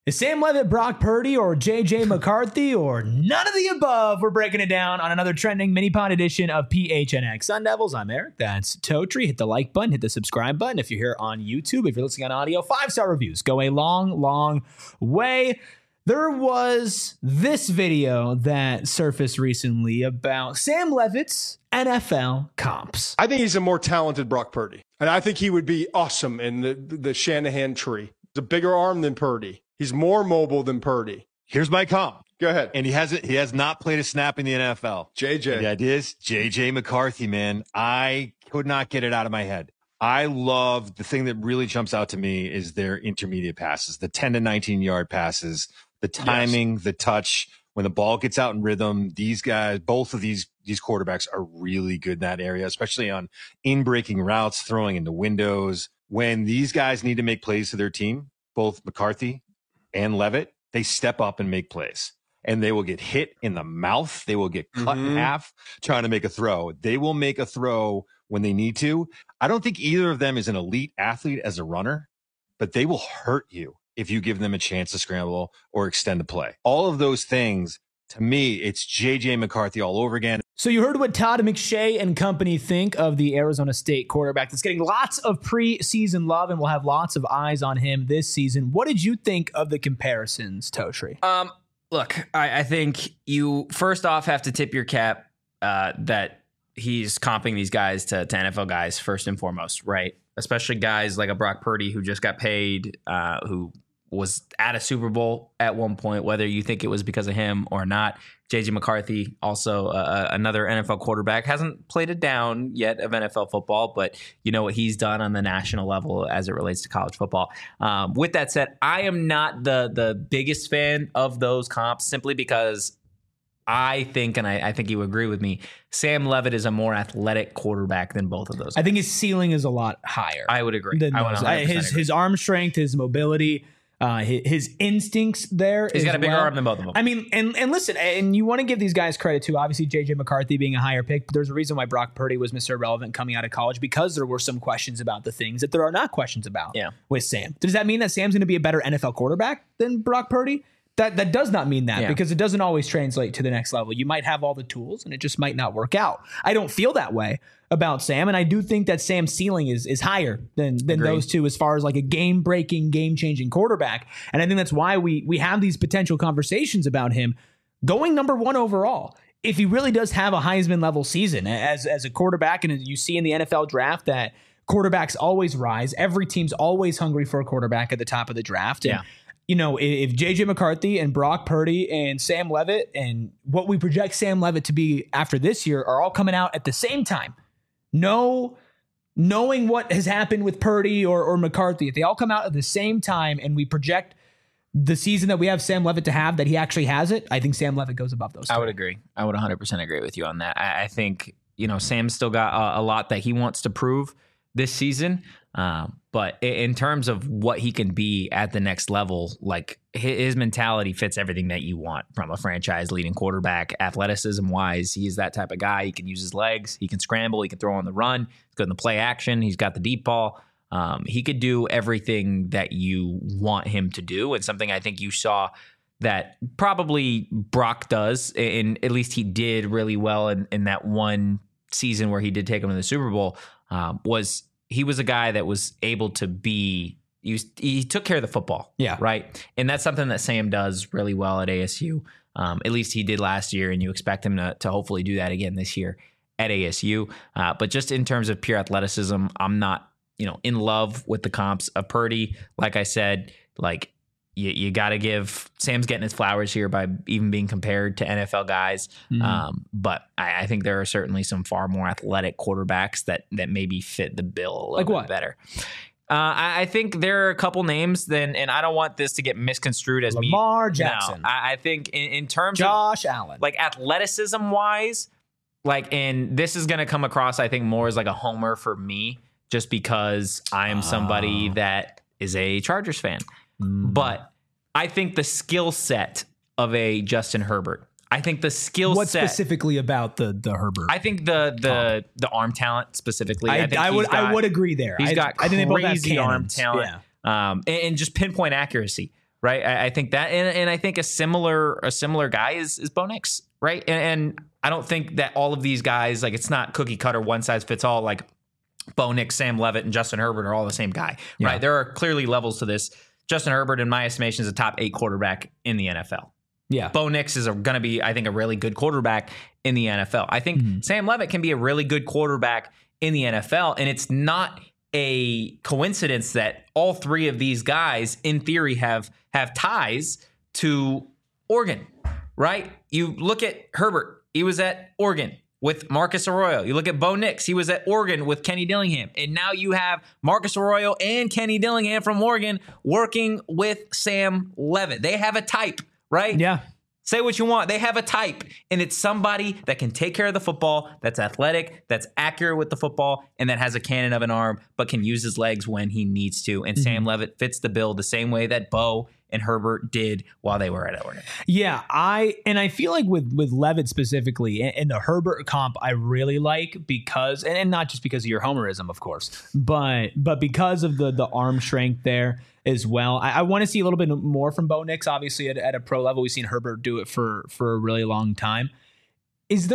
Is Sam Levitt Brock Purdy or J.J. McCarthy or none of the above? We're breaking it down on another trending mini pod edition of PHNX Sun Devils. I'm Eric. That's Totri. Hit the like button. Hit the subscribe button. If you're here on YouTube, if you're listening on audio, 5-star reviews go a long, long way. There was this video that surfaced recently about Sam Levitt's NFL comps. I think he's a more talented Brock Purdy. And I think he would be awesome in the Shanahan tree. He's a bigger arm than Purdy. He's more mobile than Purdy. Here's my comp. Go ahead. And he has not played a snap in the NFL. JJ. And the idea is J.J. McCarthy, man. I could not get it out of my head. I love the thing that really jumps out to me is their intermediate passes, the 10 to 19 yard passes, the timing, yes, the touch. When the ball gets out in rhythm, these guys, both of these quarterbacks are really good in that area, especially on in-breaking routes, throwing into windows. When these guys need to make plays to their team, both McCarthy and Levitt, they step up and make plays. And they will get hit in the mouth. They will get cut in half trying to make a throw. They will make a throw when they need to. I don't think either of them is an elite athlete as a runner, but they will hurt you if you give them a chance to scramble or extend the play. All of those things, to me, it's J.J. McCarthy all over again. So you heard what Todd McShay and company think of the Arizona State quarterback that's getting lots of preseason love and will have lots of eyes on him this season. What did you think of the comparisons, Totri? Look, I think you first off have to tip your cap that he's comping these guys to NFL guys first and foremost, right? Especially guys like a Brock Purdy who just got paid, who was at a Super Bowl at one point, whether you think it was because of him or not. J.J. McCarthy, also another NFL quarterback, hasn't played it down yet of NFL football, but you know what he's done on the national level as it relates to college football. With that said, I am not the biggest fan of those comps simply because I think, and I think you agree with me, Sam Levitt is a more athletic quarterback than both of those guys. I think his ceiling is a lot higher. I would agree. His arm strength, his mobility, his instincts there. He's got a bigger arm than both of them. I mean, and listen, and you want to give these guys credit too. Obviously, J.J. McCarthy being a higher pick, but there's a reason why Brock Purdy was Mr. Irrelevant coming out of college, because there were some questions about the things that there are not questions about with Sam. Does that mean that Sam's going to be a better NFL quarterback than Brock Purdy? That does not mean that, because it doesn't always translate to the next level. You might have all the tools and it just might not work out. I don't feel that way about Sam, and I do think that Sam's ceiling is higher than those two as far as like a game-breaking, game-changing quarterback. And I think that's why we have these potential conversations about him going number one overall. If he really does have a Heisman-level season as a quarterback, and you see in the NFL draft that quarterbacks always rise. Every team's always hungry for a quarterback at the top of the draft. And, you know, if J.J. McCarthy and Brock Purdy and Sam Levitt and what we project Sam Levitt to be after this year are all coming out at the same time, knowing what has happened with Purdy or McCarthy, if they all come out at the same time and we project the season that we have Sam Levitt to have, that he actually has it, I think Sam Levitt goes above those two. I would agree. I would 100% agree with you on that. I think, you know, Sam's still got a lot that he wants to prove this season. But in terms of what he can be at the next level, like his mentality fits everything that you want from a franchise leading quarterback. Athleticism wise, he's that type of guy. He can use his legs. He can scramble. He can throw on the run. He's good in the play action. He's got the deep ball. He could do everything that you want him to do. And something I think you saw that probably Brock does, and at least he did really well in that one season where he did take him to the Super Bowl, was he was a guy that was able to be, he took care of the football. Yeah. Right. And that's something that Sam does really well at ASU. At least he did last year, and you expect him to hopefully do that again this year at ASU. But just in terms of pure athleticism, I'm not, in love with the comps of Purdy. Like I said, like you got to give Sam's getting his flowers here by even being compared to NFL guys. Mm-hmm. But I think there are certainly some far more athletic quarterbacks that maybe fit the bill a little bit better. I think there are a couple names and I don't want this to get misconstrued as Lamar Jackson. No, I think in terms Josh of Allen, like athleticism wise, and this is going to come across, I think, more as like a homer for me, just because I am somebody that is a Chargers fan. But I think the skill set of a Justin Herbert, I think the skill set. What specifically about the Herbert? I think the arm talent specifically. I would agree there. He's got I think they both have crazy arm cannons. talent, and just pinpoint accuracy. right? I think that, and I think a similar guy is Bo Nix, right? And I don't think that all of these guys, like, it's not cookie cutter, one size fits all. Like Bo Nix, Sam Levitt, and Justin Herbert are all the same guy, right? There are clearly levels to this. Justin Herbert, in my estimation, is a top 8 quarterback in the NFL. Yeah. Bo Nix is going to be, I think, a really good quarterback in the NFL. I think Sam Levitt can be a really good quarterback in the NFL, and it's not a coincidence that all 3 of these guys, in theory, have ties to Oregon, right? You look at Herbert, he was at Oregon with Marcus Arroyo. You look at Bo Nix, he was at Oregon with Kenny Dillingham. And now you have Marcus Arroyo and Kenny Dillingham from Oregon working with Sam Levitt. They have a type, right? Yeah. Say what you want. They have a type, and it's somebody that can take care of the football, that's athletic, that's accurate with the football, and that has a cannon of an arm, but can use his legs when he needs to. And Sam Levitt fits the bill the same way that Bo and Herbert did while they were at Oregon. Yeah, I feel like with Levitt specifically, and the Herbert comp I really like because, and not just because of your homerism, of course, but because of the arm strength there as well. I want to see a little bit more from Bo Nix, obviously at a pro level. We've seen Herbert do it for a really long time. Is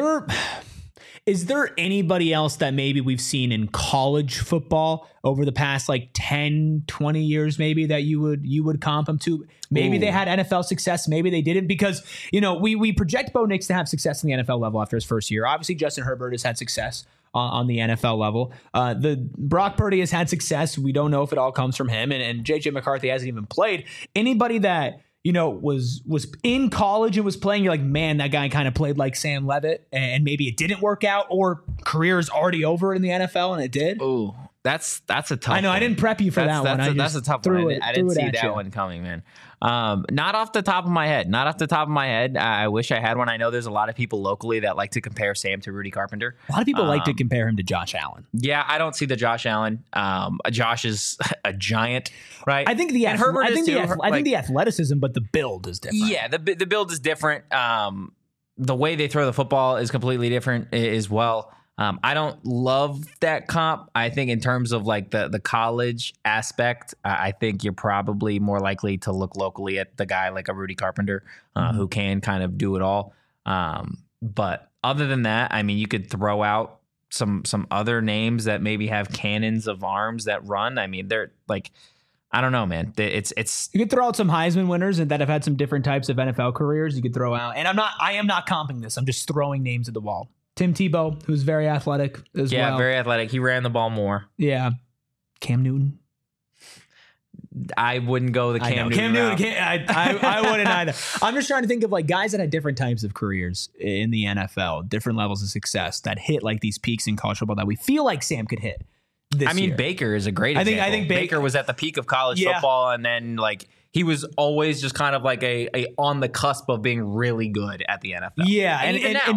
there anybody else that maybe we've seen in college football over the past like 10, 20 years maybe that you would comp them to? Maybe they had NFL success, maybe they didn't, because, you know, we project Bo Nix to have success in the NFL level after his first year. Obviously, Justin Herbert has had success on the NFL level. The Brock Purdy has had success. We don't know if it all comes from him, and JJ McCarthy hasn't even played. Anybody that, you know, was in college and was playing, you're like, man, that guy kind of played like Sam Levitt, and maybe it didn't work out, or career is already over in the NFL and it did. Ooh, that's a tough I know, one. I didn't prep you for that one. That's a tough one. I didn't see that one coming, man. Not off the top of my head. I wish I had one. I know there's a lot of people locally that like to compare Sam to Rudy Carpenter. A lot of people like to compare him to Josh Allen. Yeah, I don't see the Josh Allen. Josh is a giant, right? I think the athleticism, but the build is different. Yeah, the build is different. The way they throw the football is completely different as well. I don't love that comp. I think in terms of like the college aspect, I think you're probably more likely to look locally at the guy like a Rudy Carpenter who can kind of do it all. But other than that, I mean, you could throw out some other names that maybe have cannons of arms that run. I mean, they're like, I don't know, man. It's you could throw out some Heisman winners and that have had some different types of NFL careers. You could throw out, and I am not comping this. I'm just throwing names at the wall. Tim Tebow, who's very athletic as well. Yeah, very athletic. He ran the ball more. Yeah. Cam Newton. I wouldn't go the Cam Newton. I wouldn't either. I'm just trying to think of like guys that had different types of careers in the NFL, different levels of success that hit like these peaks in college football that we feel like Sam could hit this year. Baker is a great example. I think Baker was at the peak of college football, and then like he was always just kind of like a on the cusp of being really good at the NFL. Yeah, and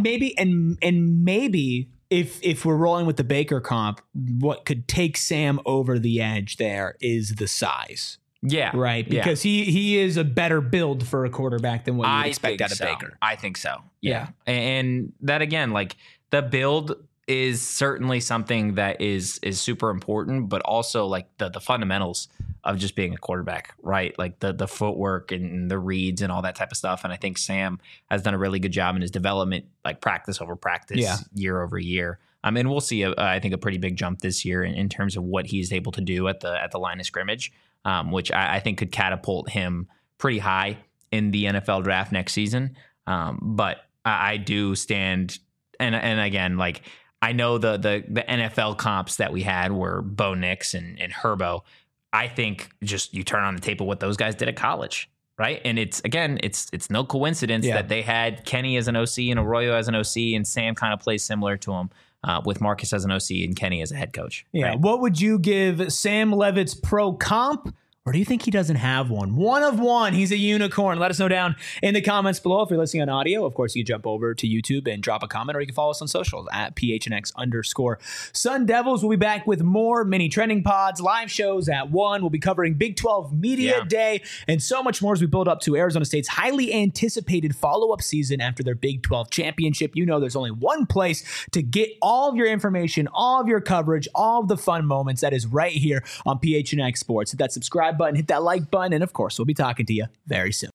maybe if we're rolling with the Baker comp, what could take Sam over the edge there is the size. Yeah. Right? Because he is a better build for a quarterback than what you would expect out of Baker. I think so. Yeah. And that again, like the build is certainly something that is super important, but also like the fundamentals of just being a quarterback, right? Like the footwork and the reads and all that type of stuff. And I think Sam has done a really good job in his development, like practice over practice, year over year. And we'll see, I think, a pretty big jump this year in terms of what he's able to do at the line of scrimmage, which I think could catapult him pretty high in the NFL draft next season. But I do stand, and again, like I know the NFL comps that we had were Bo Nix and Herbo. I think just you turn on the tape of what those guys did at college, right? And it's no coincidence that they had Kenny as an OC and Arroyo as an OC, and Sam kind of plays similar to him with Marcus as an OC and Kenny as a head coach. Yeah. Right? What would you give Sam Levitt's pro comp? Or do you think he doesn't have one? One of one. He's a unicorn. Let us know down in the comments below. If you're listening on audio, of course, you can jump over to YouTube and drop a comment, or you can follow us on socials at PHNX_Sun Devils. We'll be back with more mini trending pods, live shows at 1. We'll be covering Big 12 Media Day and so much more as we build up to Arizona State's highly anticipated follow-up season after their Big 12 championship. You know there's only one place to get all of your information, all of your coverage, all of the fun moments. That is right here on PHNX Sports. Hit that subscribe subscribe button, hit that like button, and of course, we'll be talking to you very soon.